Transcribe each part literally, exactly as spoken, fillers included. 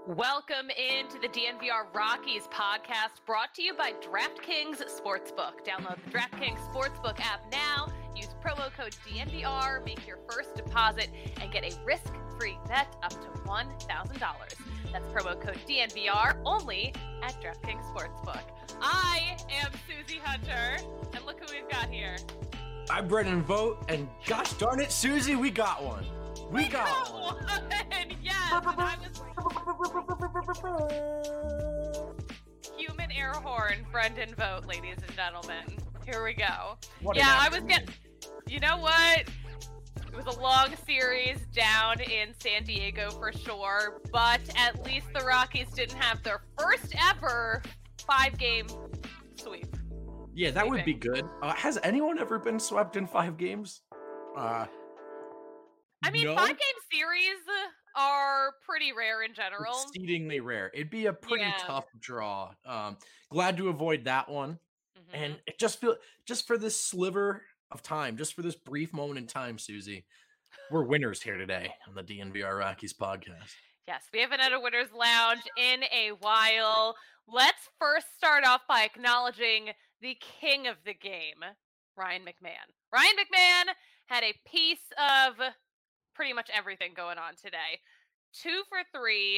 Welcome into the D N V R Rockies podcast, brought to you by DraftKings Sportsbook. Download the DraftKings Sportsbook app now. Use promo code D N V R, make your first deposit, and get a risk-free bet up to one thousand dollars. That's promo code D N V R only at DraftKings Sportsbook. I am Susie Hunter, and look who we've got here. I'm Brendan Vogt, and gosh darn it, Susie, we got one. We, we got, got one. one. Yes, and I was... Human air horn, Brendan Vogt, ladies and gentlemen. Here we go. What yeah, I was getting... You know what? It was a long series down in San Diego for sure, but at least the Rockies didn't have their first ever five-game sweep. Yeah, that would be good. Uh, has anyone ever been swept in five games? Uh, I mean, no? five-game series are pretty rare in general. Exceedingly rare. It'd be a pretty Yeah. tough draw. Um, glad to avoid that one. Mm-hmm. And it just feel just for this sliver of time, just for this brief moment in time, Susie, we're winners here today on the D N V R Rockies podcast. Yes, we haven't had a winner's lounge in a while. Let's first start off by acknowledging the king of the game, Ryan McMahon. Ryan McMahon had a piece of pretty much everything going on today. Two for three.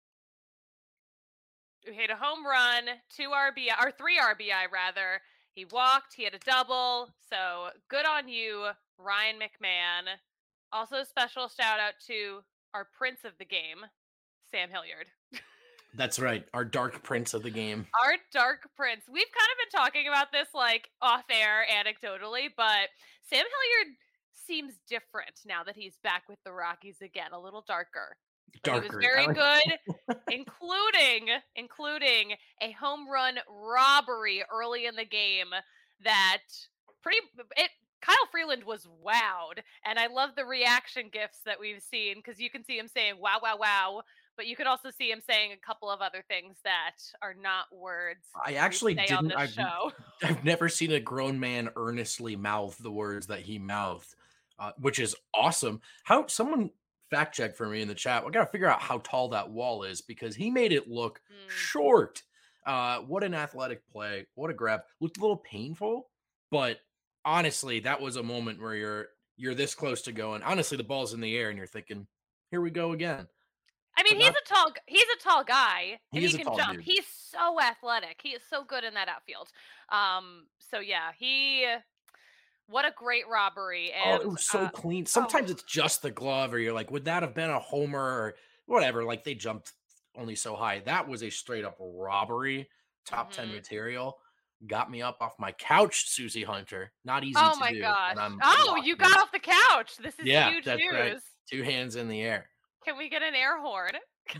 He hit a home run, two R B I, or three R B I rather. He walked, he had a double. So good on you, Ryan McMahon. Also, special shout out to our prince of the game, Sam Hilliard. That's right, our dark prince of the game. Our dark prince. We've kind of been talking about this like off air anecdotally, but Sam Hilliard seems different now that he's back with the Rockies again, a little darker. But Darker. he was very good, including including a home run robbery early in the game that pretty it Kyle Freeland was wowed, and I love the reaction gifs that we've seen because you can see him saying wow, wow, wow, but you can also see him saying a couple of other things that are not words. I actually we say didn't. on this I've, show. I've never seen a grown man earnestly mouth the words that he mouthed, uh, which is awesome. How someone fact check for me in the chat. I got to figure out how tall that wall is because he made it look Mm. short. Uh, what an athletic play. What a grab. Looked a little painful, but honestly, that was a moment where you're you're this close to going. Honestly, the ball's in the air and you're thinking, here we go again. I mean, But he's not- a tall he's a tall guy, He and is he a can tall jump. dude. He's so athletic. He is so good in that outfield. Um, so yeah, he what a great robbery. And Oh, it was so uh, clean. Sometimes it's just the glove, or you're like, would that have been a homer or whatever? Like they jumped only so high. That was a straight up robbery, top ten Mhm. material. Got me up off my couch, Susie Hunter. Not easy oh to my do. gosh. and I'm Oh, locked you in. got off the couch. This is Yeah, huge that's news. right. Two hands in the air. Can we get an air horn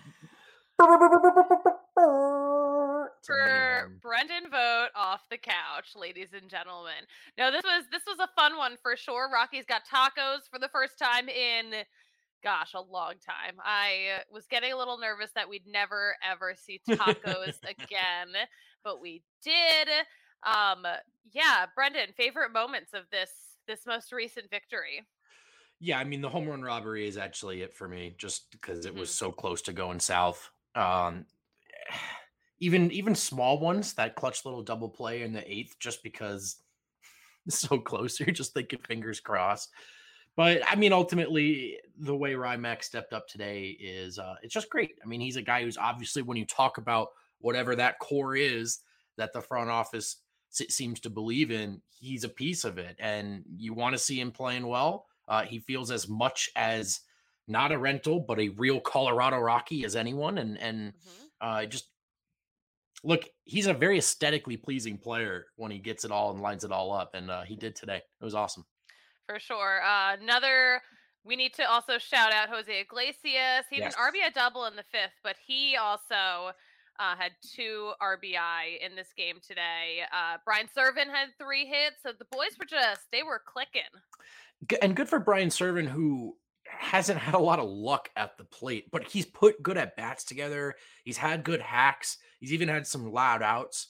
It's a mini for horn. Brendan Vogt off the couch, ladies and gentlemen? No, this was this was a fun one for sure. Rockies got tacos for the first time in gosh, a long time. I was getting a little nervous that we'd never ever see tacos again, but we did. Um, yeah, Brendan, favorite moments of this this most recent victory. Yeah, I mean the home run robbery is actually it for me, just because it was Mhm. so close to going south. Um, even even small ones, that clutch little double play in the eighth, just because it's so close, you're just thinking fingers crossed. But I mean, ultimately, the way Rymack stepped up today is uh, it's just great. I mean, he's a guy who's obviously, when you talk about whatever that core is that the front office se- seems to believe in, he's a piece of it, and you want to see him playing well. Uh, he feels as much as not a rental, but a real Colorado Rocky as anyone, and and Mhm. uh, just look, he's a very aesthetically pleasing player when he gets it all and lines it all up, and uh, he did today. It was awesome. For sure. Uh, another, we need to also shout out Jose Iglesias. He had Yes. an R B I double in the fifth, but he also uh, had two R B I in this game today. Uh, Brian Serven had three hits, so the boys were just, they were clicking. G- And good for Brian Servin, who hasn't had a lot of luck at the plate, but he's put good at bats together. He's had good hacks. He's even had some loud outs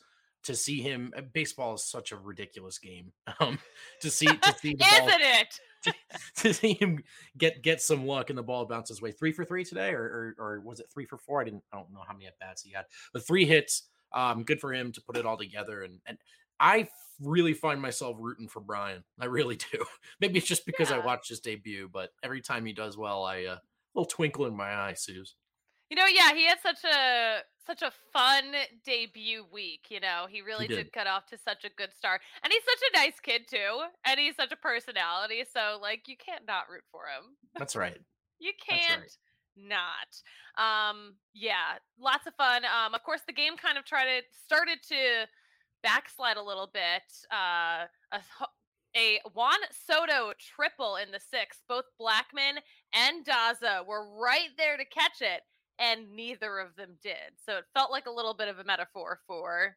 to see him, uh, baseball is such a ridiculous game. Um, to see to see the ball Isn't it? to, to see him get get some luck and the ball bounce his way. Three for three today, or, or or was it three for four? I didn't I don't know how many at bats he had, but three hits. Um, good for him to put it all together. And and I really find myself rooting for Brian. I really do. Maybe it's just because I Yeah. watched his debut, but every time he does well, I uh, little twinkle in my eye, Suze. You know, yeah, he had such a such a fun debut week, you know. He He really did. did cut off to such a good start. And he's such a nice kid too, and he's such a personality, so like you can't not root for him. That's right. You That's right. can't not. Um yeah, lots of fun. Um of course the game kind of tried to started to backslide a little bit. Uh a h- a Juan Soto triple in the sixth. Both Blackman and Daza were right there to catch it, and neither of them did. So it felt like a little bit of a metaphor for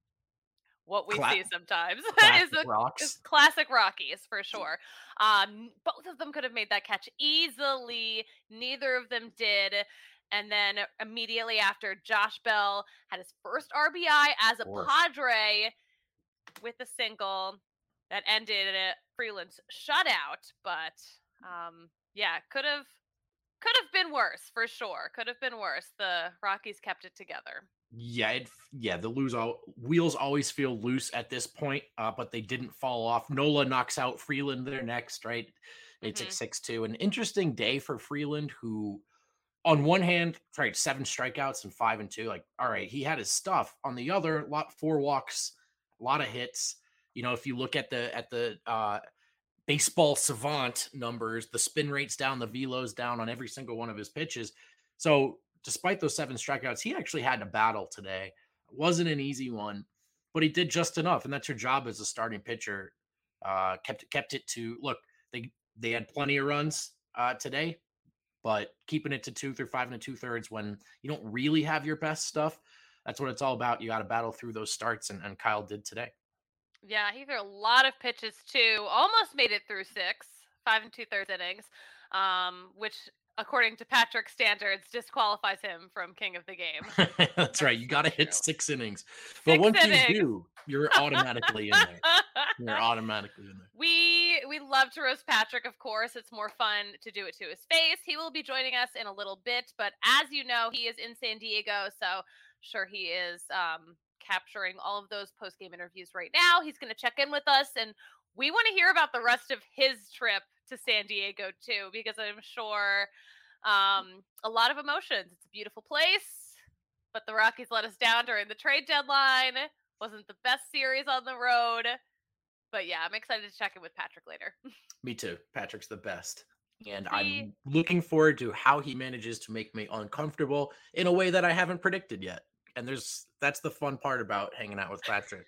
what we Cla- see sometimes is classic the is rocks. classic Rockies for sure. Um, both of them could have made that catch easily. Neither of them did. And then immediately after, Josh Bell had his first R B I as Of a course. Padre with a single that ended Freeland's shutout. But um, yeah, could have could have been worse for sure. Could have been worse. The Rockies kept it together. Yeah, it, yeah. The lose all wheels always feel loose at this point, uh, but they didn't fall off. Nola knocks out Freeland there next, right? It's like Hmm. six two. An interesting day for Freeland, who on one hand, right, seven strikeouts and five and two. Like, all right, he had his stuff. On the other, lot four walks, a lot of hits. You know, if you look at the at the uh baseball savant numbers, the spin rates down, the velos down on every single one of his pitches. So despite those seven strikeouts, he actually had to battle today. It wasn't an easy one, but he did just enough, and that's your job as a starting pitcher. Uh, kept kept it to look. They they had plenty of runs uh, today, but keeping it to two through five and a two thirds when you don't really have your best stuff. That's what it's all about. You got to battle through those starts, and, and Kyle did today. Yeah, he threw a lot of pitches too. Almost made it through six, five and two thirds innings, um, which, according to Patrick standards, disqualifies him from king of the game. That's right. That's You got not to hit true. six innings. But Six once you innings. do, you're automatically in there. You're automatically in there. we we love to roast Patrick, of course. It's more fun to do it to his face. He will be joining us in a little bit, but as you know, he is in San Diego, so sure he is um, capturing all of those post game interviews right now. He's going to check in with us, and we want to hear about the rest of his trip to San Diego too, because I'm sure um, a lot of emotions. It's a beautiful place, but the Rockies let us down during the trade deadline. Wasn't the best series on the road. But yeah, I'm excited to check in with Patrick later. Me too. Patrick's the best. And he, I'm looking forward to how he manages to make me uncomfortable in a way that I haven't predicted yet. And there's that's the fun part about hanging out with Patrick.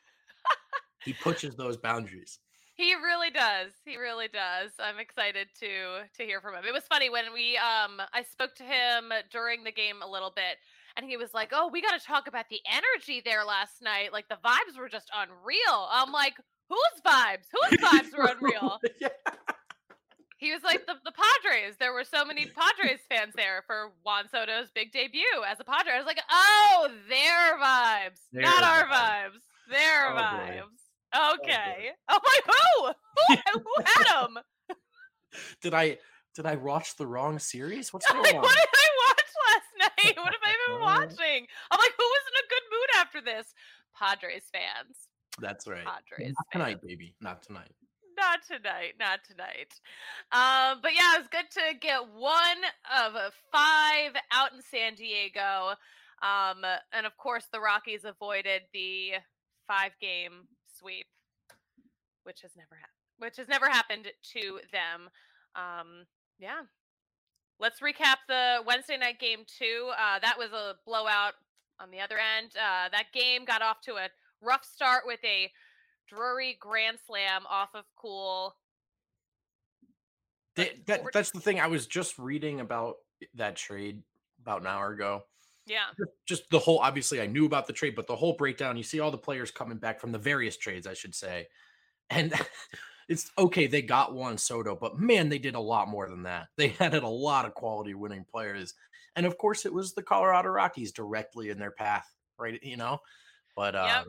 He pushes those boundaries. he really does. He really does. I'm excited to to hear from him. It was funny when we um I spoke to him during the game a little bit, and he was like, "Oh, we got to talk about the energy there last night. Like the vibes were just unreal." I'm like, "Whose vibes? Whose vibes were unreal?" Yeah. He was like the, the Padres. There were so many Padres fans there for Juan Soto's big debut as a Padre. I was like, oh, their vibes, Their not our vibes. vibes. Their Oh, boy. vibes. Okay. Oh, my who? Who, who had them? Did I did I watch the wrong series? What's I'm going like, on? what did I watch last night? What have I been watching? I'm like, who was in a good mood after this? Padres fans. That's right. Padres Not fans. tonight, baby. Not tonight. Not tonight, not tonight. Um, but yeah, it was good to get one of five out in San Diego. Um, and of course, the Rockies avoided the five-game sweep, which has never happened. Which has never happened to them. Um, yeah. Let's recap the Wednesday night game too. Uh, that was a blowout on the other end. Uh, that game got off to a rough start with a Drury grand slam off of Cool. That, that that's the thing. I was just reading about that trade about an hour ago. Yeah. Just just the whole obviously I knew about the trade, but the whole breakdown, you see all the players coming back from the various trades, I should say. And it's okay, they got Juan Soto, but man, they did a lot more than that. They added a lot of quality winning players. And of course, it was the Colorado Rockies directly in their path, right? You know, but Yep. um,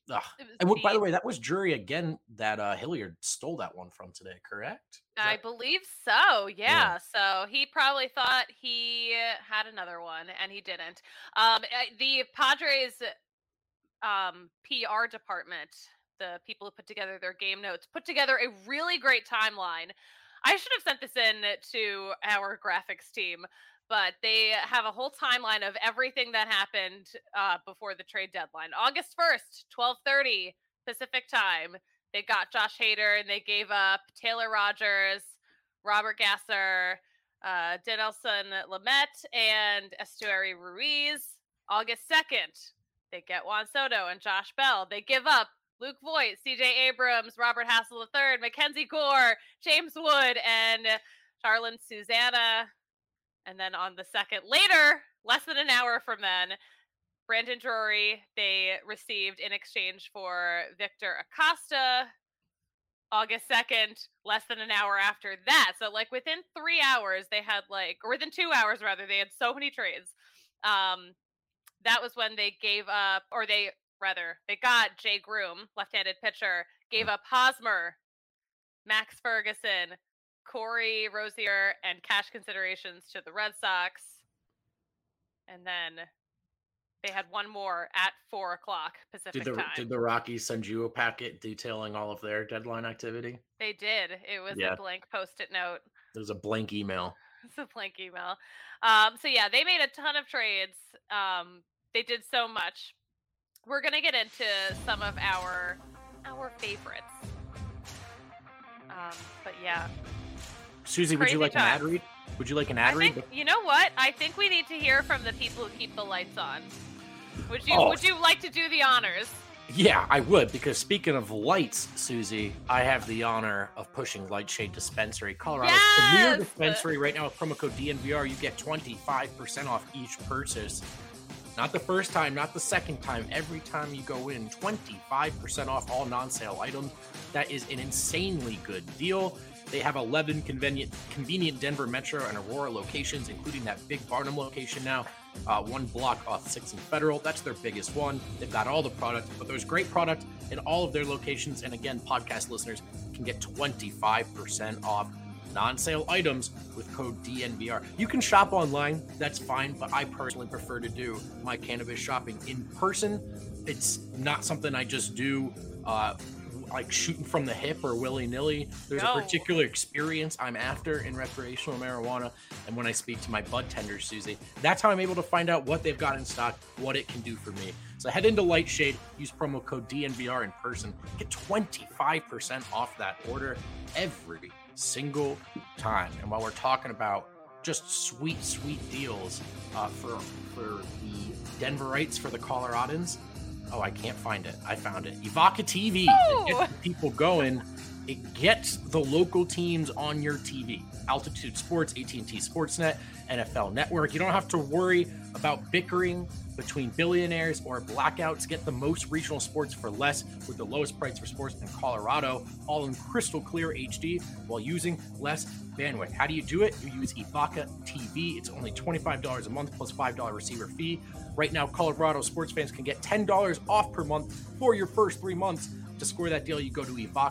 Ugh. It was And what, by the deep. way, that was Drury again that uh, Hilliard stole that one from today, correct? Is I that believe so. yeah? Yeah. So he probably thought he had another one, and he didn't. Um, uh, the Padres um, P R department, the people who put together their game notes, put together a really great timeline. I should have sent this in to our graphics team, but they have a whole timeline of everything that happened uh, before the trade deadline. August first, twelve thirty Pacific time. They got Josh Hader and they gave up Taylor Rogers, Robert Gasser, uh, Dinelson Lamet, and Estuary Ruiz. August second, they get Juan Soto and Josh Bell. They give up Luke Voigt, C J Abrams, Robert Hassel the third, Mackenzie Gore, James Wood, and Charlin Susanna. And then on the second, later, less than an hour from then, Brandon Drury, they received in exchange for Victor Acosta. August second, less than an hour after that. So, like, within three hours, they had, like, or within two hours, rather, they had so many trades. Um, that was when they gave up, or they, rather, they got Jay Groom, left-handed pitcher, gave up Hosmer, Max Ferguson, Corey Rosier, and cash considerations to the Red Sox. And then they had one more at four o'clock Pacific Did the time. did the Rockies send you a packet detailing all of their deadline activity? They did. It was Yeah. a blank post-it note. There's a blank email. It's a blank email. Um, so yeah, they made a ton of trades. Um, they did so much. We're gonna get into some of our our favorites. Um, but yeah, Susie, would you Crazy like an ad times. read? Would you like an ad I read? think you know what? I think we need to hear from the people who keep the lights on. Would you Oh. Would you like to do the honors? Yeah, I would, because speaking of lights, Susie, I have the honor of pushing Lightshade Dispensary, Colorado's premier Yes! dispensary. Right now with promo code D N V R, you get twenty-five percent off each purchase. Not the first time, not the second time. Every time you go in, twenty-five percent off all non-sale items. That is an insanely good deal. They have eleven convenient, convenient Denver Metro and Aurora locations, including that big Barnum location now. Uh, one block off sixth and Federal. That's their biggest one. They've got all the product, but there's great product in all of their locations. And again, podcast listeners can get twenty-five percent off non-sale items with code D N V R. You can shop online, that's fine, but I personally prefer to do my cannabis shopping in person. It's not something I just do uh, like shooting from the hip or willy-nilly. There's No. a particular experience I'm after in recreational marijuana, and when I speak to my bud tenders, Susie, that's how I'm able to find out what they've got in stock, what it can do for me. So head into Lightshade, use promo code D N V R in person, get twenty-five percent off that order every single time. And while we're talking about just sweet, sweet deals uh, for for the Denverites, for the Coloradans, oh, I can't find it. I found it. Evoca T V. Oh! It gets the people going. It gets the local teams on your T V. Altitude Sports, A T and T Sportsnet, N F L Network. You don't have to worry about bickering between billionaires or blackouts. Get the most regional sports for less with the lowest price for sports in Colorado, all in crystal clear H D while using less bandwidth. How do you do it? You use Evoca T V. It's only twenty-five dollars a month plus five dollars receiver fee. Right now, Colorado sports fans can get ten dollars off per month for your first three months. To score that deal, you go to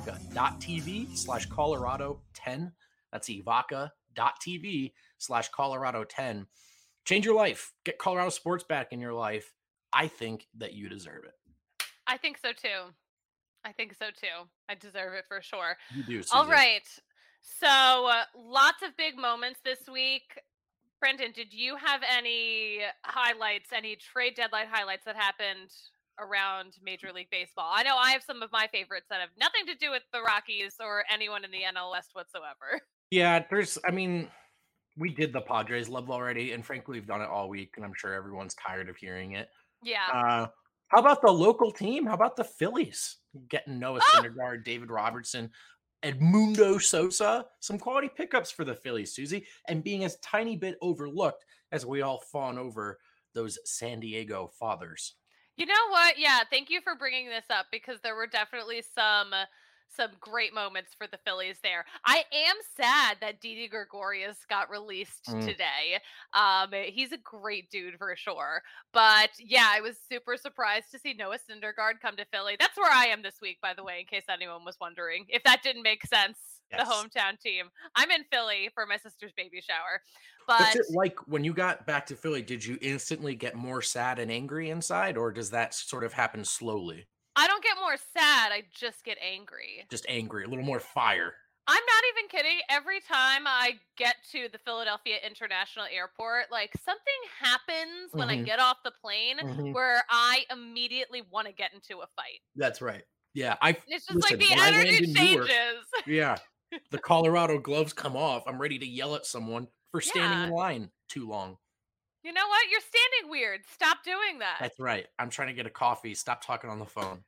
evoca.tv slash Colorado 10. That's evoca.tv slash Colorado 10. Change your life. Get Colorado sports back in your life. I think that you deserve it. I think so too. I think so too. I deserve it for sure. You do, Susie. All right. So uh, lots of big moments this week. Brendan, did you have any highlights, any trade deadline highlights that happened around Major League Baseball? I know I have some of my favorites that have nothing to do with the Rockies or anyone in the N L West whatsoever. Yeah, there's, I mean, we did the Padres love already, and frankly, we've done it all week, and I'm sure everyone's tired of hearing it. Yeah. Uh, how about the local team? How about the Phillies getting Noah Oh! Syndergaard, David Robertson, Edmundo Sosa? Some quality pickups for the Phillies, Susie, and being a tiny bit overlooked as we all fawn over those San Diego fathers. You know what? Yeah, thank you for bringing this up because there were definitely some some great moments for the Phillies there. I am sad that Didi Gregorius got released Mm. today. Um, he's a great dude for sure. But yeah, I was super surprised to see Noah Syndergaard come to Philly. That's where I am this week, by the way, in case anyone was wondering. If that didn't make sense, Yes. the hometown team. I'm in Philly for my sister's baby shower. What's But it like when you got back to Philly? Did you instantly get more sad and angry inside, or does that sort of happen slowly? I don't get more sad. I just get angry. Just angry, a little more fire. I'm not even kidding. Every time I get to the Philadelphia International Airport, like something happens when I Mhm. get off the plane Mhm. where I immediately want to get into a fight. That's right. Yeah, I It's just like listen, the when I land energy in Newark, changes. yeah, the Colorado gloves come off. I'm ready to yell at someone for standing Yeah. in line too long. You know what? You're standing weird. Stop doing that. That's right. I'm trying to get a coffee. Stop talking on the phone.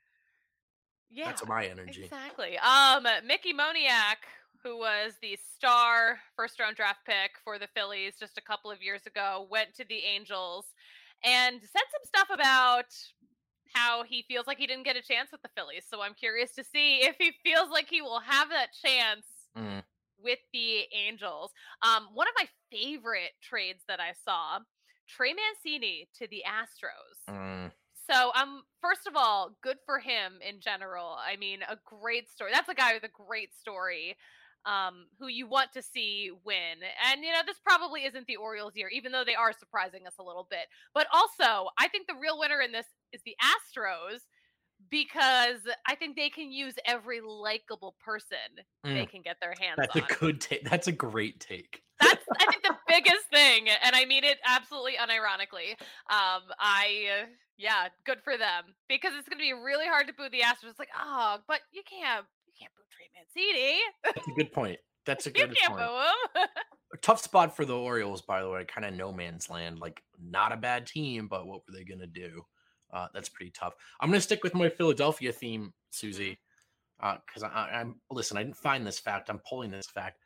Yeah, That's my energy. exactly. Um, Mickey Moniak, who was the star first round draft pick for the Phillies just a couple of years ago, went to the Angels and said some stuff about how he feels like he didn't get a chance with the Phillies. So I'm curious to see if he feels like he will have that chance Mm. with the Angels. Um, one of my favorite trades that I saw, Trey Mancini to the Astros. Mm. So, um, first of all, good for him in general. I mean, a great story. That's a guy with a great story, um, who you want to see win. And, you know, this probably isn't the Orioles year, even though they are surprising us a little bit. But also, I think the real winner in this is the Astros because I think they can use every likable person they Mm. can get their hands That's on. a good take. That's a great take. That's, I think, the biggest thing, and I mean it absolutely unironically. Um, I, uh, yeah, good for them because it's going to be really hard to boo the Astros. It's like, oh, but you can't, you can't boo Trey Mancini. That's a good point. That's a You good can't point. boo him. A tough spot for the Orioles, by the way, kind of no man's land. Like, not a bad team, but what were they going to do? Uh, that's pretty tough. I'm going to stick with my Philadelphia theme, Susie, because I, I, I'm listen. I didn't find this fact. I'm pulling this fact.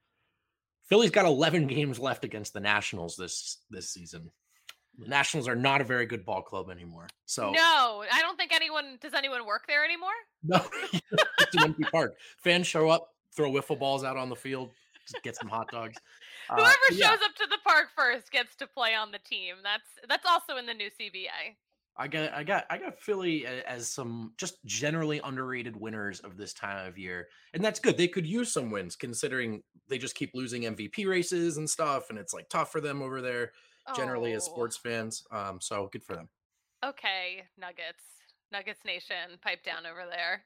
Philly's got eleven games left against the Nationals this this season. The Nationals are not a very good ball club anymore. So No, I don't think anyone does. Anyone work there anymore? no, it's an empty park. Fans show up, throw wiffle balls out on the field, just get some hot dogs. Uh, Whoever but yeah, shows up to the park first gets to play on the team. That's that's also in the new C B A. I got, I got, I got Philly a- as some just generally underrated winners of this time of year, and that's good. They could use some wins considering they just keep losing M V P races and stuff, and it's like tough for them over there generally as Oh, sports fans. Um, so good for them. okay, Nuggets, Nuggets Nation, pipe down over there.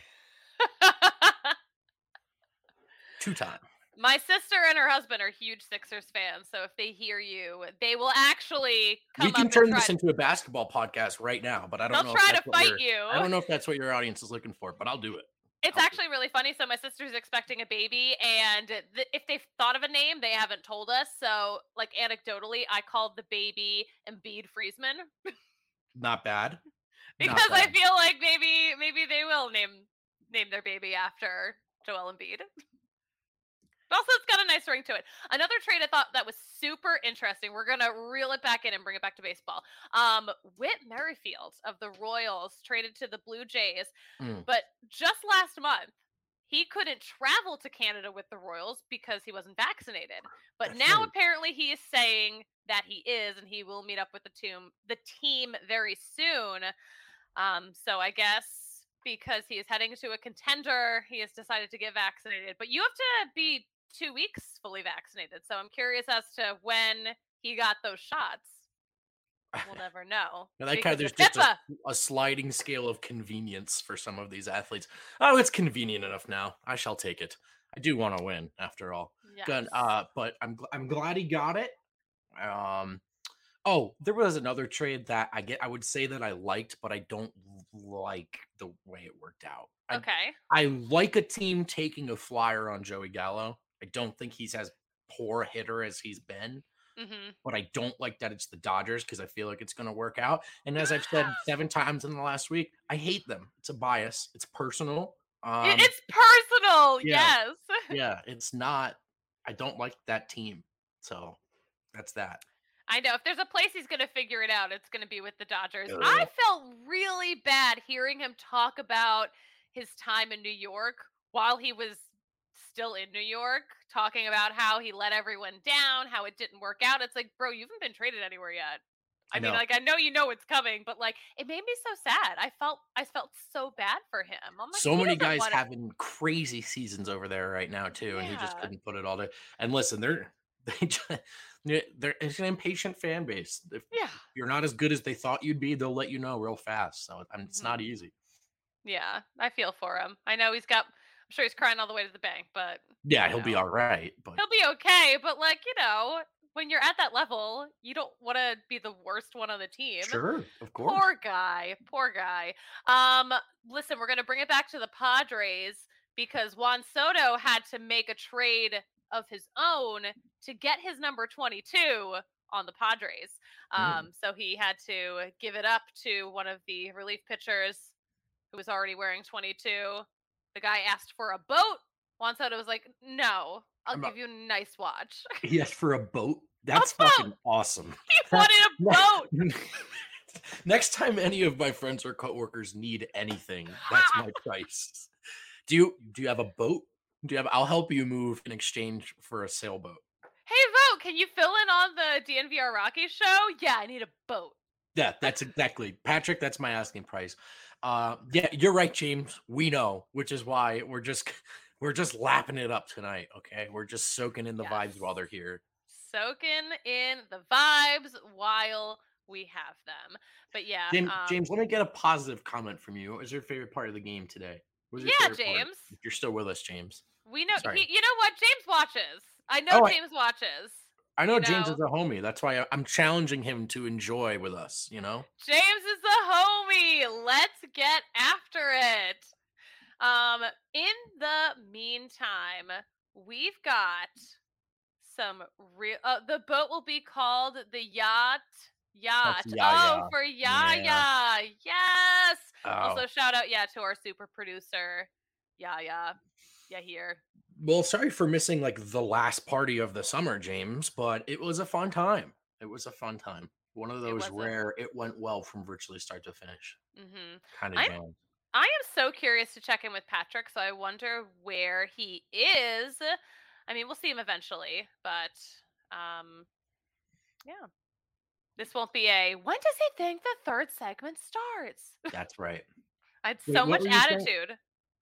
Two time. My sister and her husband are huge Sixers fans, so if they hear you, they will actually come We can up turn and try. this into a basketball podcast right now, but I don't They'll know. try if to that's what fight your- you. I don't know if that's what your audience is looking for, but I'll do it. It's I'll do actually really funny. So my sister's expecting a baby, and th- if they've thought of a name, they haven't told us. So, like anecdotally, I called the baby Embiid Friesman Not bad. because Not I bad. feel like maybe maybe they will name name their baby after Joel Embiid. But also, it's got a nice ring to it. Another trade I thought that was super interesting. We're gonna reel it back in and bring it back to baseball. Um, Whit Merrifield of the Royals traded to the Blue Jays, Mm. but just last month he couldn't travel to Canada with the Royals because he wasn't vaccinated. But That's now right. apparently he is saying that he is, and he will meet up with the team, the team very soon. Um, so I guess because he is heading to a contender, he has decided to get vaccinated. But you have to be two weeks fully vaccinated. So I'm curious as to when he got those shots. We'll never know. I like how because there's of just a, HIPAA. a sliding scale of convenience for some of these athletes. Oh, it's convenient enough now. I shall take it. I do want to win after all. Good. Yes. Uh, but I'm gl- I'm glad he got it. Um, oh, there was another trade that I get. I would say that I liked, but I don't like the way it worked out. I, Okay. I like a team taking a flyer on Joey Gallo. I don't think he's as poor a hitter as he's been, Mm-hmm. but I don't like that it's the Dodgers because I feel like it's going to work out. And as I've said seven times in the last week, I hate them. It's a bias. It's personal. Um, It's personal. yeah. Yes. yeah, it's not. I don't like that team. So that's that. I know. If there's a place he's going to figure it out, it's going to be with the Dodgers. Ugh. I felt really bad hearing him talk about his time in New York while he was still in New York, talking about how he let everyone down, how it didn't work out. It's like, bro, you haven't been traded anywhere yet. I, I mean, know. like, I know you know it's coming, but like, it made me so sad. I felt, I felt so bad for him. I'm like, So he many doesn't guys want to. having crazy seasons over there right now too, and he just Yeah, couldn't put it all together. And listen, they're they just, yeah, they're it's an impatient fan base. If yeah, you're not as good as they thought you'd be, they'll let you know real fast. So I it's not hmm easy. yeah. I feel for him. I know he's got. I'm sure he's crying all the way to the bank, but Yeah, you he'll be know, all right, but he'll be okay. But like, you know, when you're at that level, you don't want to be the worst one on the team. sure, of course. Poor guy, poor guy. Um, listen, we're gonna bring it back to the Padres because Juan Soto had to make a trade of his own to get his number twenty-two on the Padres. Mm. Um, so he had to give it up to one of the relief pitchers who was already wearing twenty-two. The guy asked for a boat. Juan Soto was like, "No, I'll I'm a- give you a nice watch." He asked for a boat. A That's boat. fucking awesome. He wanted a boat. Next time any of my friends or coworkers need anything, that's my price. Do you do you have a boat? Do you have I'll help you move in exchange for a sailboat. Hey, Vote, can you fill in on the D N V R Rockies show? Yeah, I need a boat. Yeah, that's exactly. Patrick, that's my asking price. Uh yeah, you're right, James. We know, which is why we're just we're just lapping it up tonight, okay? We're just soaking in the Yes. vibes while they're here. Soaking in the vibes while we have them. But yeah, James, um, James, let me get a positive comment from you. What was your favorite part of the game today? What was your yeah, favorite part? James. If you're still with us, James. We know Sorry. he. You know what? James watches. I know Oh, I, James watches. I know You James know, is a homie. That's why I, I'm challenging him to enjoy with us, you know? James is a homie. Let's get after it. Um, in the meantime, we've got some real. Uh, the boat will be called the yacht. That's Yacht. Oh, Yaya. for Yeah. Yaya. Yes. Oh. Also, shout out, yeah, to our super producer, Yaya. Yeah, here. Well, sorry for missing like the last party of the summer, James, but it was a fun time. It was a fun time. One of It those was a. rare it went well from virtually start to finish Mm-hmm. kind of I'm. jam. I am so curious to check in with Patrick, so I wonder where he is. I mean, we'll see him eventually, but um, yeah. This won't be a when does he think the third segment starts? That's right. I had Wait, so what much were you saying? attitude.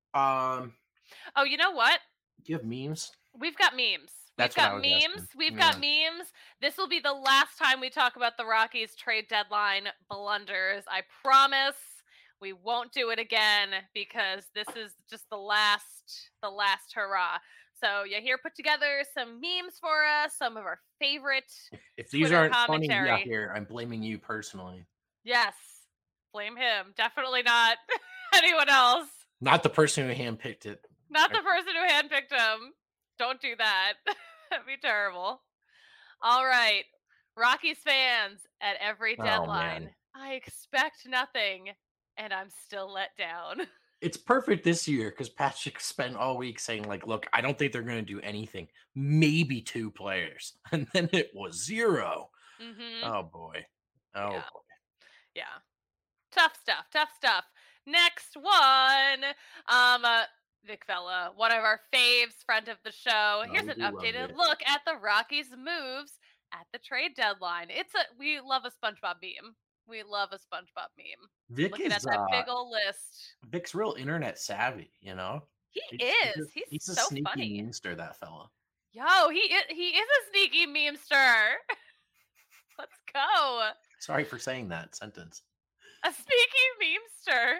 Um, Oh, you know what? do you have memes? We've got memes. We've That's what I got was memes. asking. We've Yeah. got memes. This will be the last time we talk about the Rockies trade deadline blunders. I promise we won't do it again because this is just the last the last hurrah. So yeah, here put together some memes for us, some of our favorite If, if these Twitter aren't funny, yeah, commentary. here I'm blaming you personally, Yes. Blame him. Definitely not anyone else. not the person who handpicked it. Not the person who handpicked him. Don't do that. That'd be terrible. All right. Rockies fans at every Oh, deadline. man. I expect nothing, and I'm still let down. It's perfect this year because Patrick spent all week saying, like, look, I don't think they're going to do anything. Maybe two players. And then it was zero. Mm-hmm. Oh, boy. Oh, Yeah. boy. Yeah. Tough stuff. Tough stuff. Next one. Um, uh, Vic Vela, one of our faves, friend of the show. Here's Oh, an we love updated Vic. look at the Rockies' moves at the trade deadline. It's a we love a SpongeBob meme. We love a SpongeBob meme. Vic Looking is at that uh, big old list. Vic's real internet savvy, you know? He He's, he's, is. a, He's, he's a so sneaky funny. memester, that fella. Yo, he is, he is a sneaky memester. Let's go. Sorry for saying that sentence. A sneaky memester.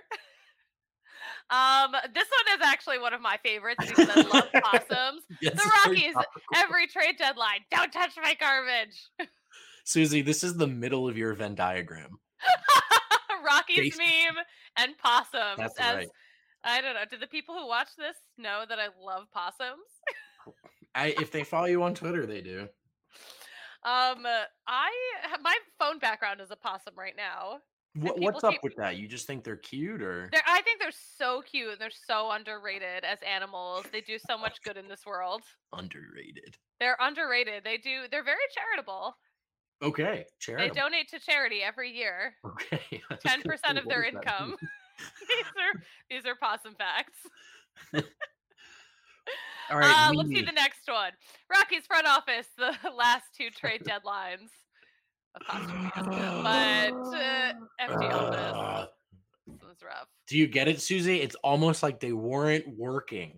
Um, this one is actually one of my favorites because I love possums. Yes, The it's very Rockies, topical. every trade deadline, don't touch my garbage. Susie, this is the middle of your Venn diagram. Rockies Basi- meme and possums. That's as, right. I don't know. Do the people who watch this know that I love possums? I, if they follow you on Twitter, they do. Um, I my phone background is a possum right now. What, people what's up keep- with that? You just think they're cute, or They're, I think they're so cute. They're so underrated as animals. They do so much good in this world. underrated? They're underrated. They do. They're very charitable. Okay, They charitable. donate to charity every year. Okay, I was Ten gonna percent say, of what their does that income. mean? these are these are possum facts. All right, Uh, let's see me. the next one. Rockies front office, the last two trade deadlines. Apostrophes. But uh, empty office. Uh, This was rough. do you get it, Susie? It's almost like they weren't working.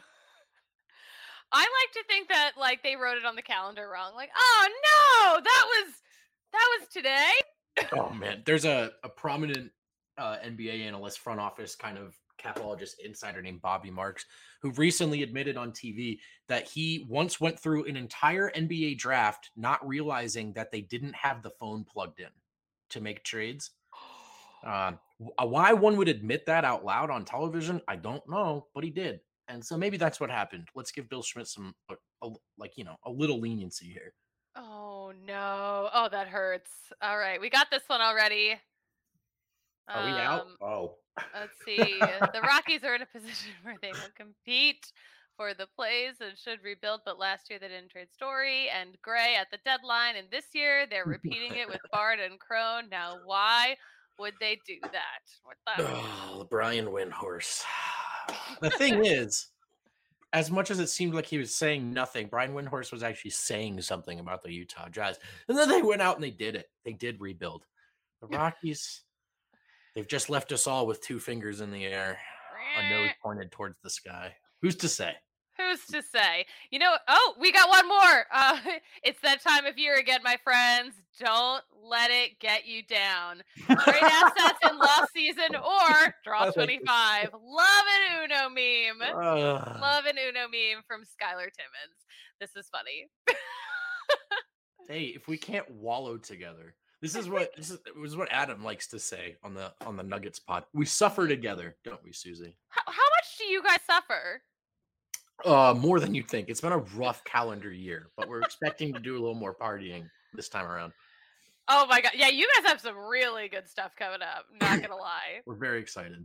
I like to think that like they wrote it on the calendar wrong. Like, oh no, that was that was today. Oh man, there's a, a prominent uh, N B A analyst, front office kind of capologist insider named Bobby Marks, who recently admitted on T V that he once went through an entire N B A draft not realizing that they didn't have the phone plugged in to make trades. Uh, why one would admit that out loud on television, I don't know, but he did, and so maybe that's what happened. Let's give Bill Schmidt some, a, a, like you know, a little leniency here. Oh no. Oh, that hurts. All right, we got this one already. Are we out? Um, Oh, let's see. The Rockies are in a position where they will compete for the plays and should rebuild, but last year they didn't trade Story and Gray at the deadline, and this year they're repeating it with Bard and Crone. Now, why would they do that? What the? oh, Brian Windhorse. The thing is, as much as it seemed like he was saying nothing, Brian Windhorse was actually saying something about the Utah Jazz. And then they went out and they did it. They did rebuild. The Rockies, they've just left us all with two fingers in the air, a nose pointed towards the sky. Who's to say? Who's to say? You know, oh, we got one more. Uh, it's that time of year again, my friends. Don't let it get you down. Trade assets in lost season or draw twenty-five. Love an Uno meme. Uh, Love an Uno meme from Skylar Timmons. This is funny. hey, if we can't wallow together, this is what this is, this is what Adam likes to say on the on the Nuggets pod. We suffer together, don't we, Susie? How, how much do you guys suffer? Uh, more than you'd think. It's been a rough calendar year, but we're expecting to do a little more partying this time around. Oh my god. Yeah, you guys have some really good stuff coming up. Not gonna lie. We're very excited.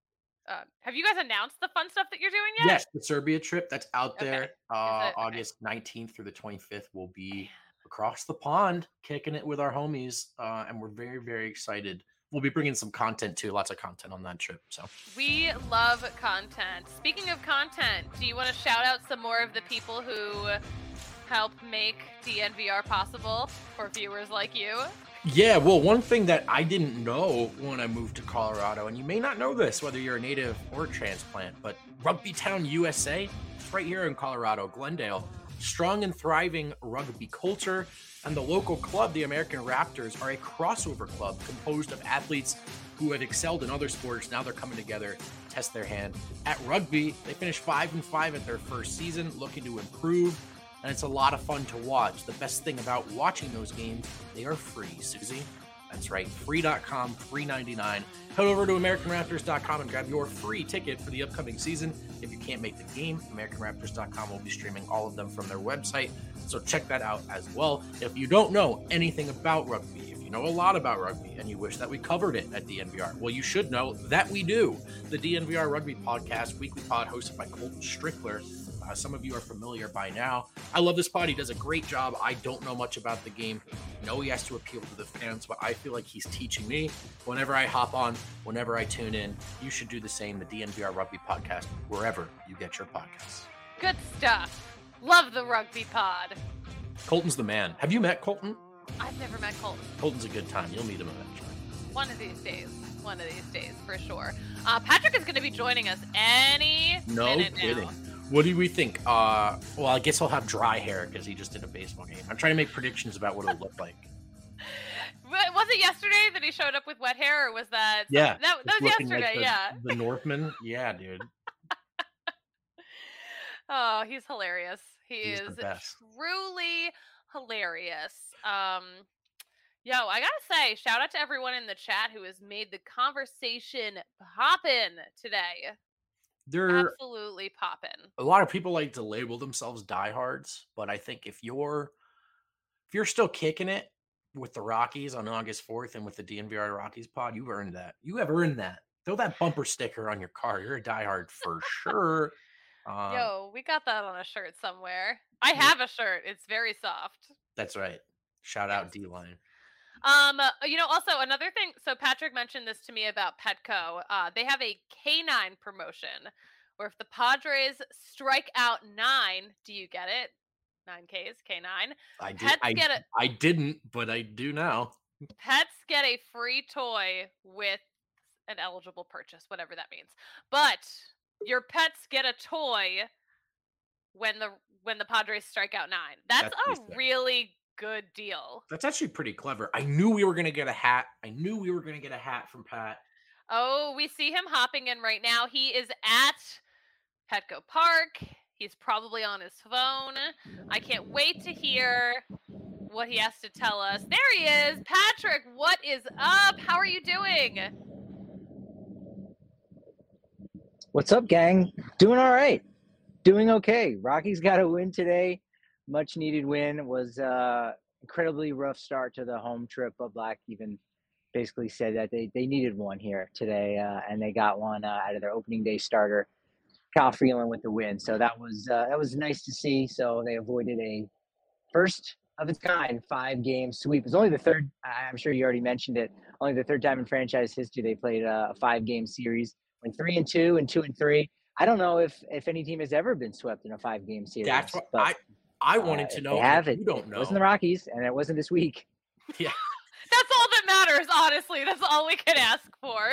Uh, have you guys announced the fun stuff that you're doing yet? Yes, the Serbia trip that's out Okay. there. Is Uh, it? Okay. August nineteenth through the twenty-fifth will be across the pond, kicking it with our homies, uh, and we're very, very excited. We'll be bringing some content too, lots of content on that trip. So We love content. Speaking of content, do you want to shout out some more of the people who help make D N V R possible for viewers like you? yeah, well, one thing that I didn't know when I moved to Colorado, and you may not know this, whether you're a native or a transplant, but Rugby Town U S A, it's right here in Colorado, Glendale. Strong and thriving rugby culture, and the local club, the American Raptors, are a crossover club composed of athletes who have excelled in other sports. Now they're coming together, test their hand at rugby. They finished five and five at their first season, looking to improve, and it's a lot of fun to watch. The best thing about watching those games, they are free, Susie. That's right, free dot com, free ninety-nine. Head over to American Raptors dot com and grab your free ticket for the upcoming season. If you can't make the game, American Raptors dot com will be streaming all of them from their website, so check that out as well. If you don't know anything about rugby, if you know a lot about rugby and you wish that we covered it at D N V R, well, you should know that we do. The D N V R Rugby Podcast, weekly pod hosted by Colton Strickler. Uh, some of you are familiar by now. I love this pod. He does a great job. I don't know much about the game. I know he has to appeal to the fans, but I feel like he's teaching me whenever I hop on, whenever I tune in. You should do the same. The D N V R Rugby Podcast, wherever you get your podcasts. Good stuff. Love the rugby pod. Colton's the man. Have you met Colton? I've never met Colton. Colton's a good time. You'll meet him eventually. One of these days. One of these days, for sure. Uh, Patrick is going to be joining us any No minute kidding. now. What do we think? Uh, well, I guess he'll have dry hair because he just did a baseball game. I'm trying to make predictions about what it'll look like. Was it yesterday that he showed up with wet hair, or was that? Yeah, that, that was looking like yesterday. the, yeah. The Northman. Yeah, dude. Oh, he's hilarious. He He's is the best. truly hilarious. Um, yo, I gotta say, shout out to everyone in the chat who has made the conversation poppin' today. There, Absolutely poppin'. a lot of people like to label themselves diehards, but I think if you're if you're still kicking it with the Rockies on August fourth and with the D N V R Rockies pod, you've earned that. You have earned that. Throw that bumper sticker on your car. You're a diehard for sure. Um, Yo, we got that on a shirt somewhere. I have a shirt. It's very soft. That's right. Shout out D-Line. Um, uh, you know, also another thing. So Patrick mentioned this to me about Petco. Uh, they have a canine promotion where if the Padres strike out nine, do you get it? Nine Ks, K nine. I did. Pets I, get a I didn't, but I do now. Pets get a free toy with an eligible purchase, whatever that means. But your pets get a toy when the when the Padres strike out nine. That's, That's a really good deal. That's actually pretty clever. I knew we were gonna get a hat. I knew we were gonna get a hat from Pat. Oh, we see him hopping in right now. He is at Petco Park. He's probably on his phone. I can't wait to hear what he has to tell us. There he is. Patrick, what is up? How are you doing? What's up, gang? Doing all right. Doing okay. Rockies got a win today. Much needed win. It was uh incredibly rough start to the home trip, but Black even basically said that they, they needed one here today, uh, and they got one uh, out of their opening day starter, Kyle Freeland, with the win. So that was uh, that was nice to see. So they avoided a first of its kind five game sweep. It's only the third. I'm sure you already mentioned it. Only the third time in franchise history they played a five game series. Went three and two and two and three. I don't know if if any team has ever been swept in a five game series. That's what but, I I wanted uh, to know. They have it. You don't it know. It wasn't the Rockies, and it wasn't this week. Yeah. That's all that matters, honestly. That's all we can ask for.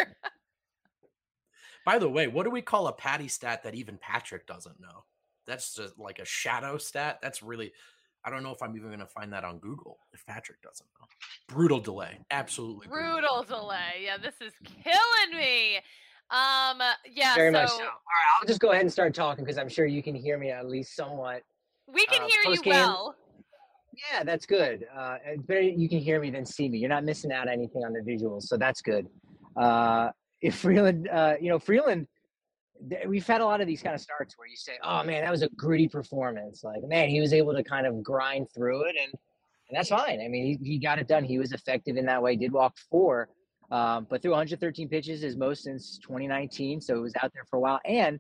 By the way, what do we call a Patty stat that even Patrick doesn't know? That's just like a shadow stat. That's really, I don't know if I'm even going to find that on Google if Patrick doesn't know. Brutal delay. Absolutely. Brutal, brutal delay. Yeah, this is killing me. Um, yeah, Very so much so. All right, I'll just go ahead and start talking because I'm sure you can hear me at least somewhat. We can uh, hear you post-game- well. Yeah, that's good. Uh, it's better you can hear me than see me. You're not missing out on anything on the visuals, so that's good. Uh, if Freeland, uh, you know, Freeland, th- we've had a lot of these kind of starts where you say, "Oh man, that was a gritty performance." Like, man, he was able to kind of grind through it, and and that's fine. I mean, he, he got it done. He was effective in that way. Did walk four, um, but threw one hundred thirteen pitches, his most since twenty nineteen. So it was out there for a while, and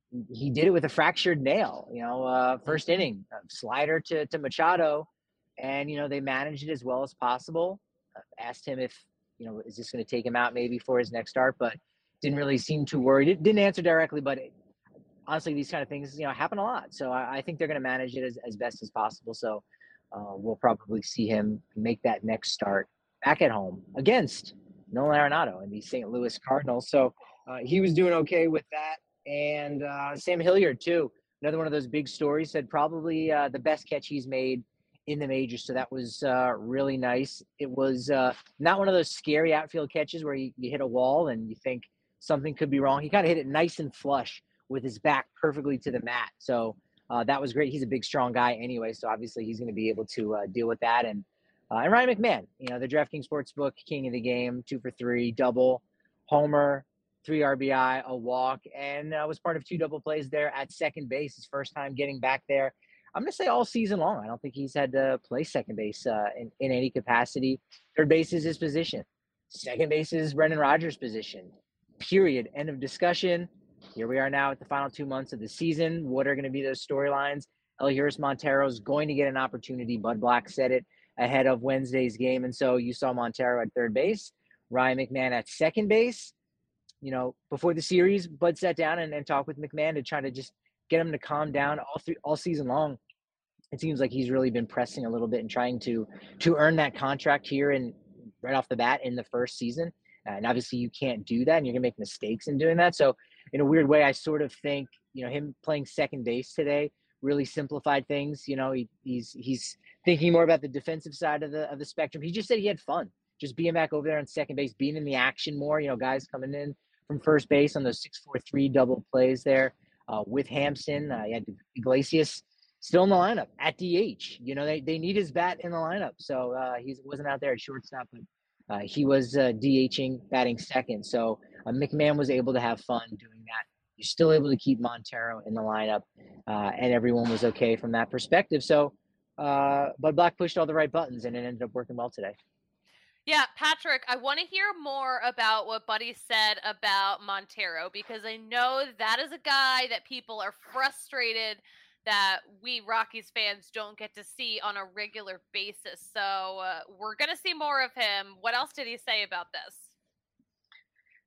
he did it with a fractured nail. You know, uh, first inning uh, slider to to Machado. And, you know, they managed it as well as possible. Uh, asked him if, you know, is this going to take him out maybe for his next start, but didn't really seem too worried. It didn't answer directly, but it, honestly, these kind of things, you know, happen a lot. So I, I think they're going to manage it as, as best as possible. So uh, we'll probably see him make that next start back at home against Nolan Arenado and the Saint Louis Cardinals. So uh, he was doing okay with that. And uh, Sam Hilliard, too, another one of those big stories, said probably uh, the best catch he's made in the majors. So that was uh, really nice. It was uh, not one of those scary outfield catches where you, you hit a wall and you think something could be wrong. He kind of hit it nice and flush with his back perfectly to the mat. So uh, that was great. He's a big, strong guy anyway. So obviously he's going to be able to uh, deal with that. And uh, and Ryan McMahon, you know, the DraftKings Sportsbook king of the game, two for three, double, homer, three R B I, a walk, and uh, was part of two double plays there at second base. His first time getting back there. I'm going to say all season long. I don't think he's had to play second base uh, in, in any capacity. Third base is his position. Second base is Brendan Rodgers' position. Period. End of discussion. Here we are now at the final two months of the season. What are going to be those storylines? Elihuris Montero is going to get an opportunity. Bud Black said it ahead of Wednesday's game. And so you saw Montero at third base, Ryan McMahon at second base. You know, before the series, Bud sat down and, and talked with McMahon to try to just get him to calm down all through all season long. It seems like he's really been pressing a little bit and trying to to earn that contract here and right off the bat in the first season. Uh, and obviously you can't do that and you're gonna make mistakes in doing that. So in a weird way, I sort of think, you know, him playing second base today really simplified things. You know, he, he's he's thinking more about the defensive side of the of the spectrum. He just said he had fun just being back over there on second base, being in the action more, you know, guys coming in from first base on those six four three double plays there. Uh, with Hampson, uh, you had Iglesias still in the lineup at D H. You know, they, they need his bat in the lineup. So uh, he wasn't out there at shortstop, but uh, he was uh, DHing, batting second. So uh, McMahon was able to have fun doing that. You're still able to keep Montero in the lineup, uh, and everyone was okay from that perspective. So uh, Bud Black pushed all the right buttons, and it ended up working well today. Yeah, Patrick, I want to hear more about what Buddy said about Montero, because I know that is a guy that people are frustrated that we Rockies fans don't get to see on a regular basis. So uh, we're going to see more of him. What else did he say about this?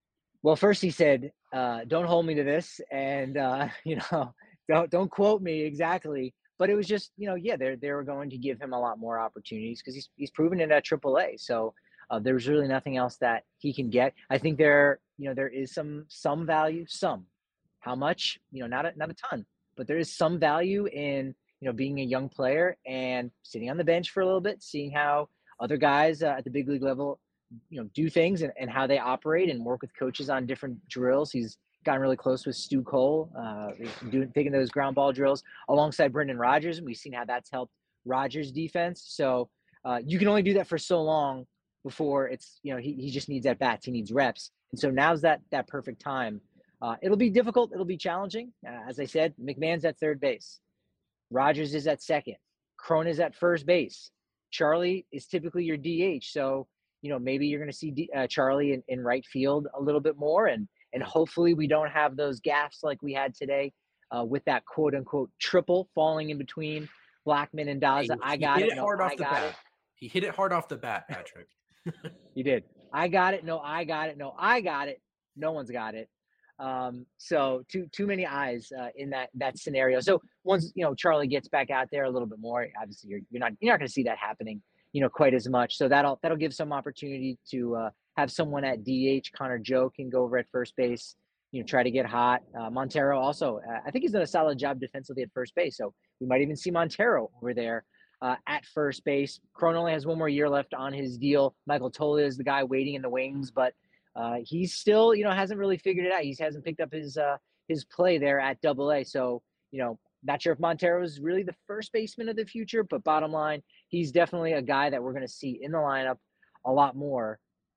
Well, first he said, uh, "Don't hold me to this," and uh, you know, don't don't quote me exactly. But it was just, you know, yeah, they they were going to give him a lot more opportunities because he's he's proven it at triple A. So uh, there's really nothing else that he can get. I think there, you know, there is some some value, some. How much? You know, not a, not a ton, but there is some value in, you know, being a young player and sitting on the bench for a little bit, seeing how other guys uh, at the big league level, you know, do things and, and how they operate and work with coaches on different drills. He's gotten really close with Stu Cole, uh, doing taking those ground ball drills alongside Brendan Rodgers, and we've seen how that's helped Rodgers' defense. So uh, you can only do that for so long before it's, you know, he, he just needs at bats, he needs reps, and so now's that that perfect time. Uh, it'll be difficult, it'll be challenging. Uh, as I said, McMahon's at third base, Rodgers is at second, Cron is at first base, Charlie is typically your D H, so you know, maybe you're going to see D, uh, Charlie in, in right field a little bit more. And, and hopefully we don't have those gaffes like we had today uh, with that quote unquote triple falling in between Blackmon and Daza. Hey, I got hit it. it No, hard I off the got bat. it. He hit it hard off the bat, Patrick. You did. I got it. No, I got it. No, I got it. No one's got it. Um, so too too many eyes uh, in that that scenario. So once, you know, Charlie gets back out there a little bit more, obviously you're you're not you're not going to see that happening, you know, quite as much. So that'll that'll give some opportunity to uh, have someone at D H. Connor Joe can go over at first base, you know, try to get hot. Uh, Montero also, uh, I think he's done a solid job defensively at first base. So we might even see Montero over there uh, at first base. Cron only has one more year left on his deal. Michael Tola is the guy waiting in the wings, but uh, he's still, you know, hasn't really figured it out. He hasn't picked up his uh, his play there at Double A. So, you know, not sure if Montero is really the first baseman of the future, but bottom line, he's definitely a guy that we're going to see in the lineup a lot more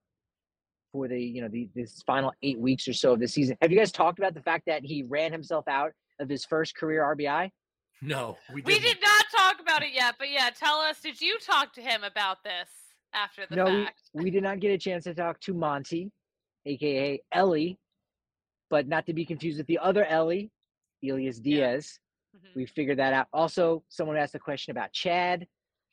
for the, you know, the this final eight weeks or so of the season. Have you guys talked about the fact that he ran himself out of his first career R B I? No, we We didn't. did not talk about it yet, but yeah, tell us, did you talk to him about this after the No, we, fact? we did not get a chance to talk to Monty, aka Ellie, but not to be confused with the other Ellie, Elias Diaz. Mhm. We figured that out. Also, someone asked a question about Chad.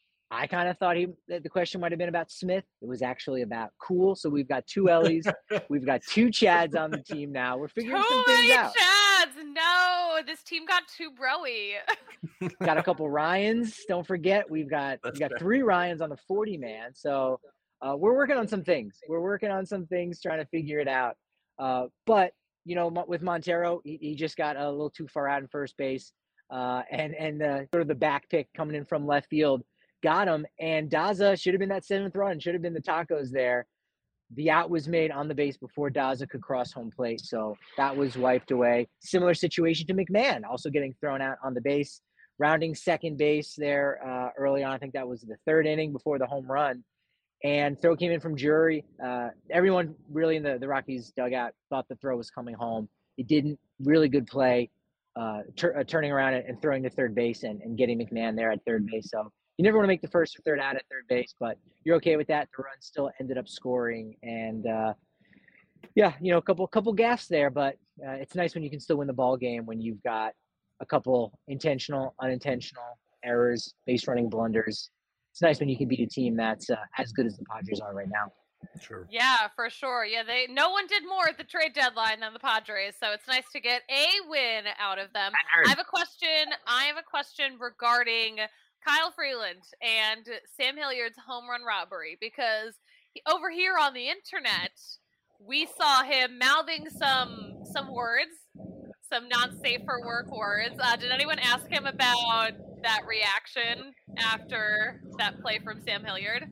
I kind of thought he that the question might have been about Smith. It was actually about Cool. So we've got two Ellies. We've got two Chads on the team now. We're figuring Too some things many out. Chads! No, this team got too broy. Got a couple Ryans. Don't forget, we've got That's we got fair. three Ryans on the forty man. So uh, we're working on some things. We're working on some things, trying to figure it out. Uh, but you know, with Montero, he, he just got a little too far out in first base, uh, and and uh, sort of the back pick coming in from left field got him. And Daza should have been that seventh run. Should have been the tacos there. The out was made on the base before Daza could cross home plate, so that was wiped away. Similar situation to McMahon, also getting thrown out on the base, rounding second base there uh, early on. I think that was the third inning before the home run. And throw came in from Drury. Uh, everyone really in the, the Rockies dugout thought the throw was coming home. He didn't. Really good play, uh, tur- uh, turning around and, and throwing to third base and, and getting McMahon there at third base. So you never want to make the first or third out at third base, but you're okay with that. The run still ended up scoring. And, uh, yeah, you know, a couple couple gaffes there, but uh, it's nice when you can still win the ball game when you've got a couple intentional, unintentional errors, base running blunders. It's nice when you can beat a team that's uh, as good as the Padres are right now. Sure. Yeah, for sure. Yeah, they no one did more at the trade deadline than the Padres, so it's nice to get a win out of them. I have a question. I have a question regarding Kyle Freeland and Sam Hilliard's home run robbery, because he, over here on the internet, we saw him mouthing some some words, some not safe for work words. Uh, did anyone ask him about that reaction after that play from Sam Hilliard?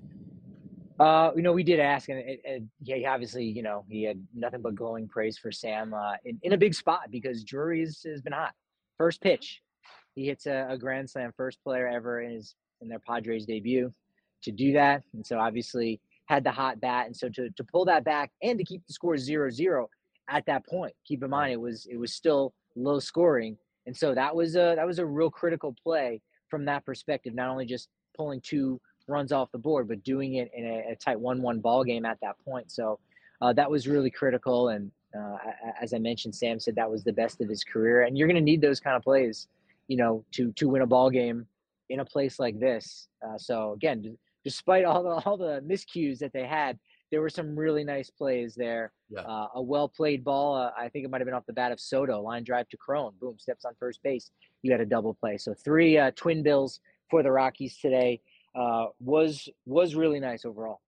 Uh, you know, we did ask, and it, it, yeah, he obviously, you know, he had nothing but glowing praise for Sam uh, in, in a big spot because Drury has, has been hot. First pitch, he hits a, a grand slam, first player ever in his in their Padres debut to do that, and so obviously had the hot bat, and so to to pull that back and to keep the score zero zero at that point. Keep in mind, it was it was still low scoring, and so that was a that was a real critical play from that perspective. Not only just pulling two runs off the board, but doing it in a, a tight one one ball game at that point. So uh, that was really critical. And uh, as I mentioned, Sam said that was the best of his career. And you're going to need those kind of plays, you know, to to win a ball game in a place like this. Uh, so again, despite all the all the miscues that they had, there were some really nice plays there. Yeah. Uh, a well played ball. Uh, I think it might have been off the bat of Soto. Line drive to Crone. Boom, steps on first base. You had a double play. So three uh, twin bills for the Rockies today. Uh, was was really nice overall.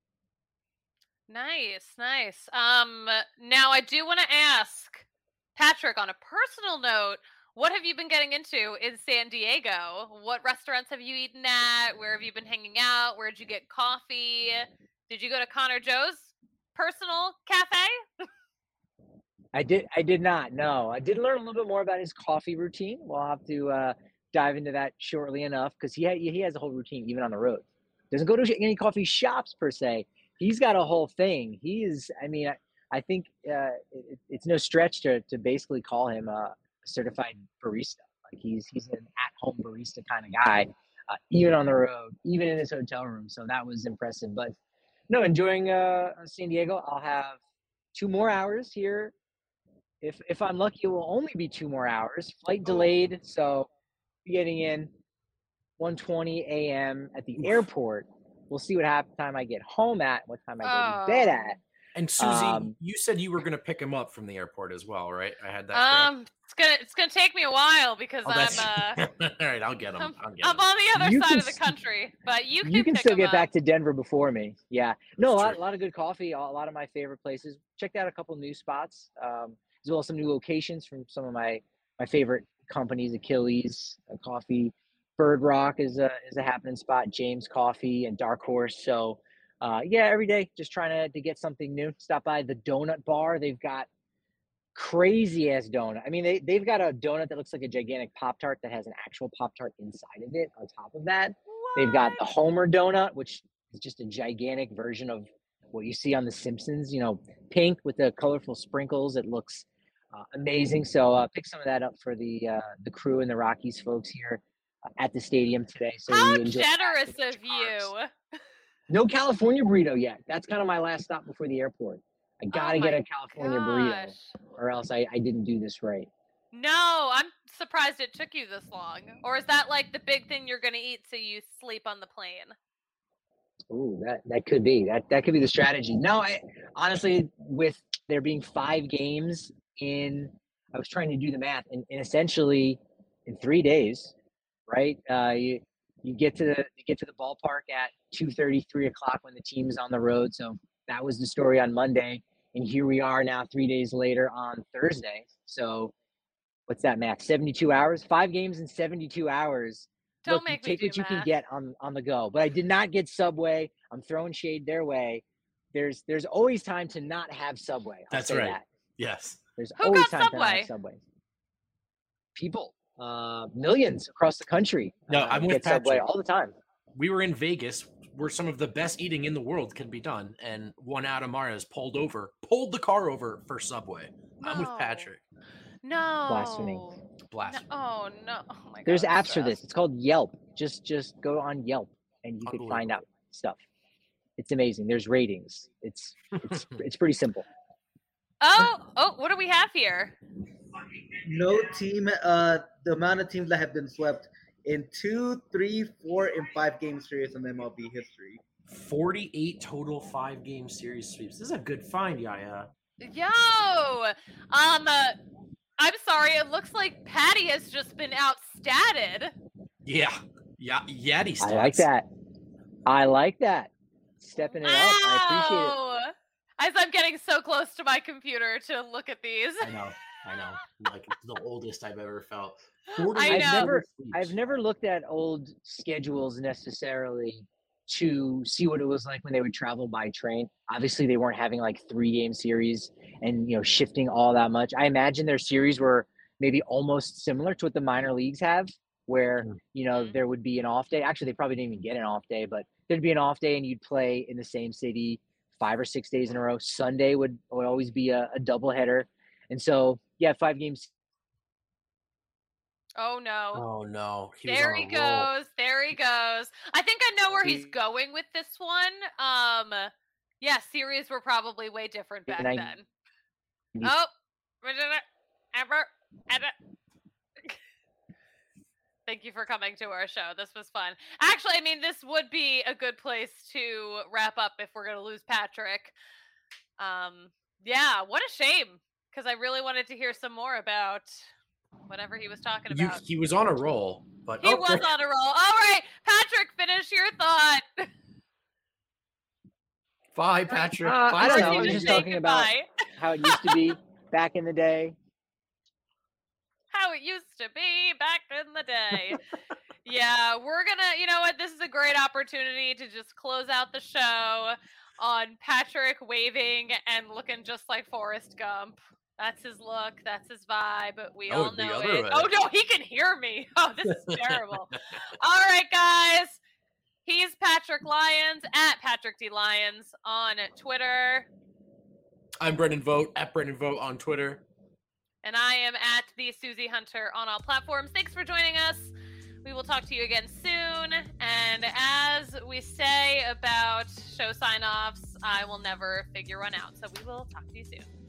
Nice, nice. Um, now I do want to ask Patrick, on a personal note, what have you been getting into in San Diego? What restaurants have you eaten at? Where have you been hanging out? Where'd you get coffee? Did you go to Connor Joe's personal cafe? I did. I did not. No, I did learn a little bit more about his coffee routine. We'll have to uh, dive into that shortly enough because he ha- he has a whole routine even on the road. Doesn't go to any coffee shops per se. He's got a whole thing. He is. I mean, I, I think uh, it, it's no stretch to to basically call him a certified barista. Like he's he's an at-home barista kind of guy, uh, even on the road, even in his hotel room. So that was impressive. But no, enjoying uh, San Diego. I'll have two more hours here. If if I'm lucky, it will only be two more hours. Flight delayed, so getting in one twenty a.m. at the airport. We'll see what happens time I get home at, what time I go to bed at. And Susie, Um, you said you were going to pick him up from the airport as well, right? I had that. Um, correct? it's gonna it's gonna take me a while because Oh, I'm that's uh all right. I'll get him. I'm, I'll get I'm him. on the other You side can of the s- country, but you can you can pick still him get up. back to Denver before me. Yeah. No, a That's lot, true. a lot of good coffee, a lot of my favorite places. Checked out a couple new spots, um, as well as some new locations from some of my, my favorite companies, Achilles uh, Coffee. Bird Rock is a, is a happening spot, James Coffee and Dark Horse. So, uh, yeah, every day just trying to, to get something new. Stop by the Donut Bar. They've got crazy ass donut. I mean, they, they've got a donut that looks like a gigantic Pop Tart that has an actual Pop Tart inside of it on top of that. They've got the What? Homer donut, which is just a gigantic version of what you see on The Simpsons, you know, pink with the colorful sprinkles. It looks uh, amazing. So uh, pick some of that up for the uh, the crew and the Rockies folks here uh, at the stadium today. So How we enjoy generous a bunch of carbs. you. No California burrito yet. That's kind of my last stop before the airport. I got to Oh get my a California gosh. burrito or else I, I didn't do this right. No, I'm surprised it took you this long. Or is that like the big thing you're gonna eat so you sleep on the plane? Ooh, that, that could be that that could be the strategy. No, I honestly, with there being five games in, I was trying to do the math, and, and essentially in three days, right? Uh, you you get to the you get to the ballpark at two thirty, three o'clock when the team is on the road. So that was the story on Monday, and here we are now, three days later on Thursday. So what's that math? seventy-two hours, five games in seventy-two hours. Don't Look, you make me take do what you can math. get on on the go. But I did not get Subway. I'm throwing shade their way. There's there's always time to not have Subway. I'll That's say right. that. Yes. There's Who always got time to not have Subway? Subway. People, uh, millions across the country. No, uh, I'm with get Subway Patrick. all the time. We were in Vegas where some of the best eating in the world can be done, and one Adam Mares pulled over, pulled the car over for Subway. I'm with No. Patrick. No. Blasphemy. No. Blasphemy. Oh no. Oh my god. There's I'm apps for this. stressed. It's called Yelp. Just just go on Yelp and you could find out stuff. It's amazing. There's ratings. It's it's it's pretty simple. Oh, oh, what do we have here? No team, uh, the amount of teams that have been swept in two, three, four, and five game series in M L B history. forty-eight total five game series sweeps. This is a good find, Yaya. Yo, um, uh, I'm sorry. It looks like Patty has just been outstatted. Yeah. Yeah. Yaddy stats. I like that. I like that. Stepping it up. I appreciate it. Wow. As I'm getting so close to my computer to look at these. I know. I know. Like it's the oldest I've ever felt. I I've know. never I've never looked at old schedules necessarily to see what it was like when they would travel by train. Obviously they weren't having like three game series and you know shifting all that much. I imagine their series were maybe almost similar to what the minor leagues have, where you know Mhm. there would be an off day. Actually they probably didn't even get an off day, but there'd be an off day and you'd play in the same city five or six days in a row. Sunday would, would always be a, a double header. And so yeah, five games. Oh no. Oh no. He was There on he a roll. goes. There he goes. I think I know where he's He- going with this one. Um, yeah, series were probably way different back And I- then. Oh, ever, ever. Thank you for coming to our show. This was fun. Actually, I mean, this would be a good place to wrap up if we're going to lose Patrick. Um, yeah, what a shame, because I really wanted to hear some more about whatever he was talking You, about. he was on a roll, but He oh, was there- on a roll. All right, Patrick, finish your thought. Bye, Patrick. Uh, Bye, I don't know. Or I you was just just say talking about goodbye. how it used to be back in the day. How it used to be back in the day. Yeah, we're gonna, you know what? This is a great opportunity to just close out the show on Patrick waving and looking just like Forrest Gump. That's his look. That's his vibe. We Oh, all the know other it. way. Oh no, he can hear me. Oh, this is terrible. All right, guys. He's Patrick Lyons at Patrick D Lyons on Twitter. I'm Brendan Vogt at Brendan Vogt on Twitter. And I am at the Susie Hunter on all platforms. Thanks for joining us. We will talk to you again soon. And as we say about show sign-offs, I will never figure one out. So we will talk to you soon.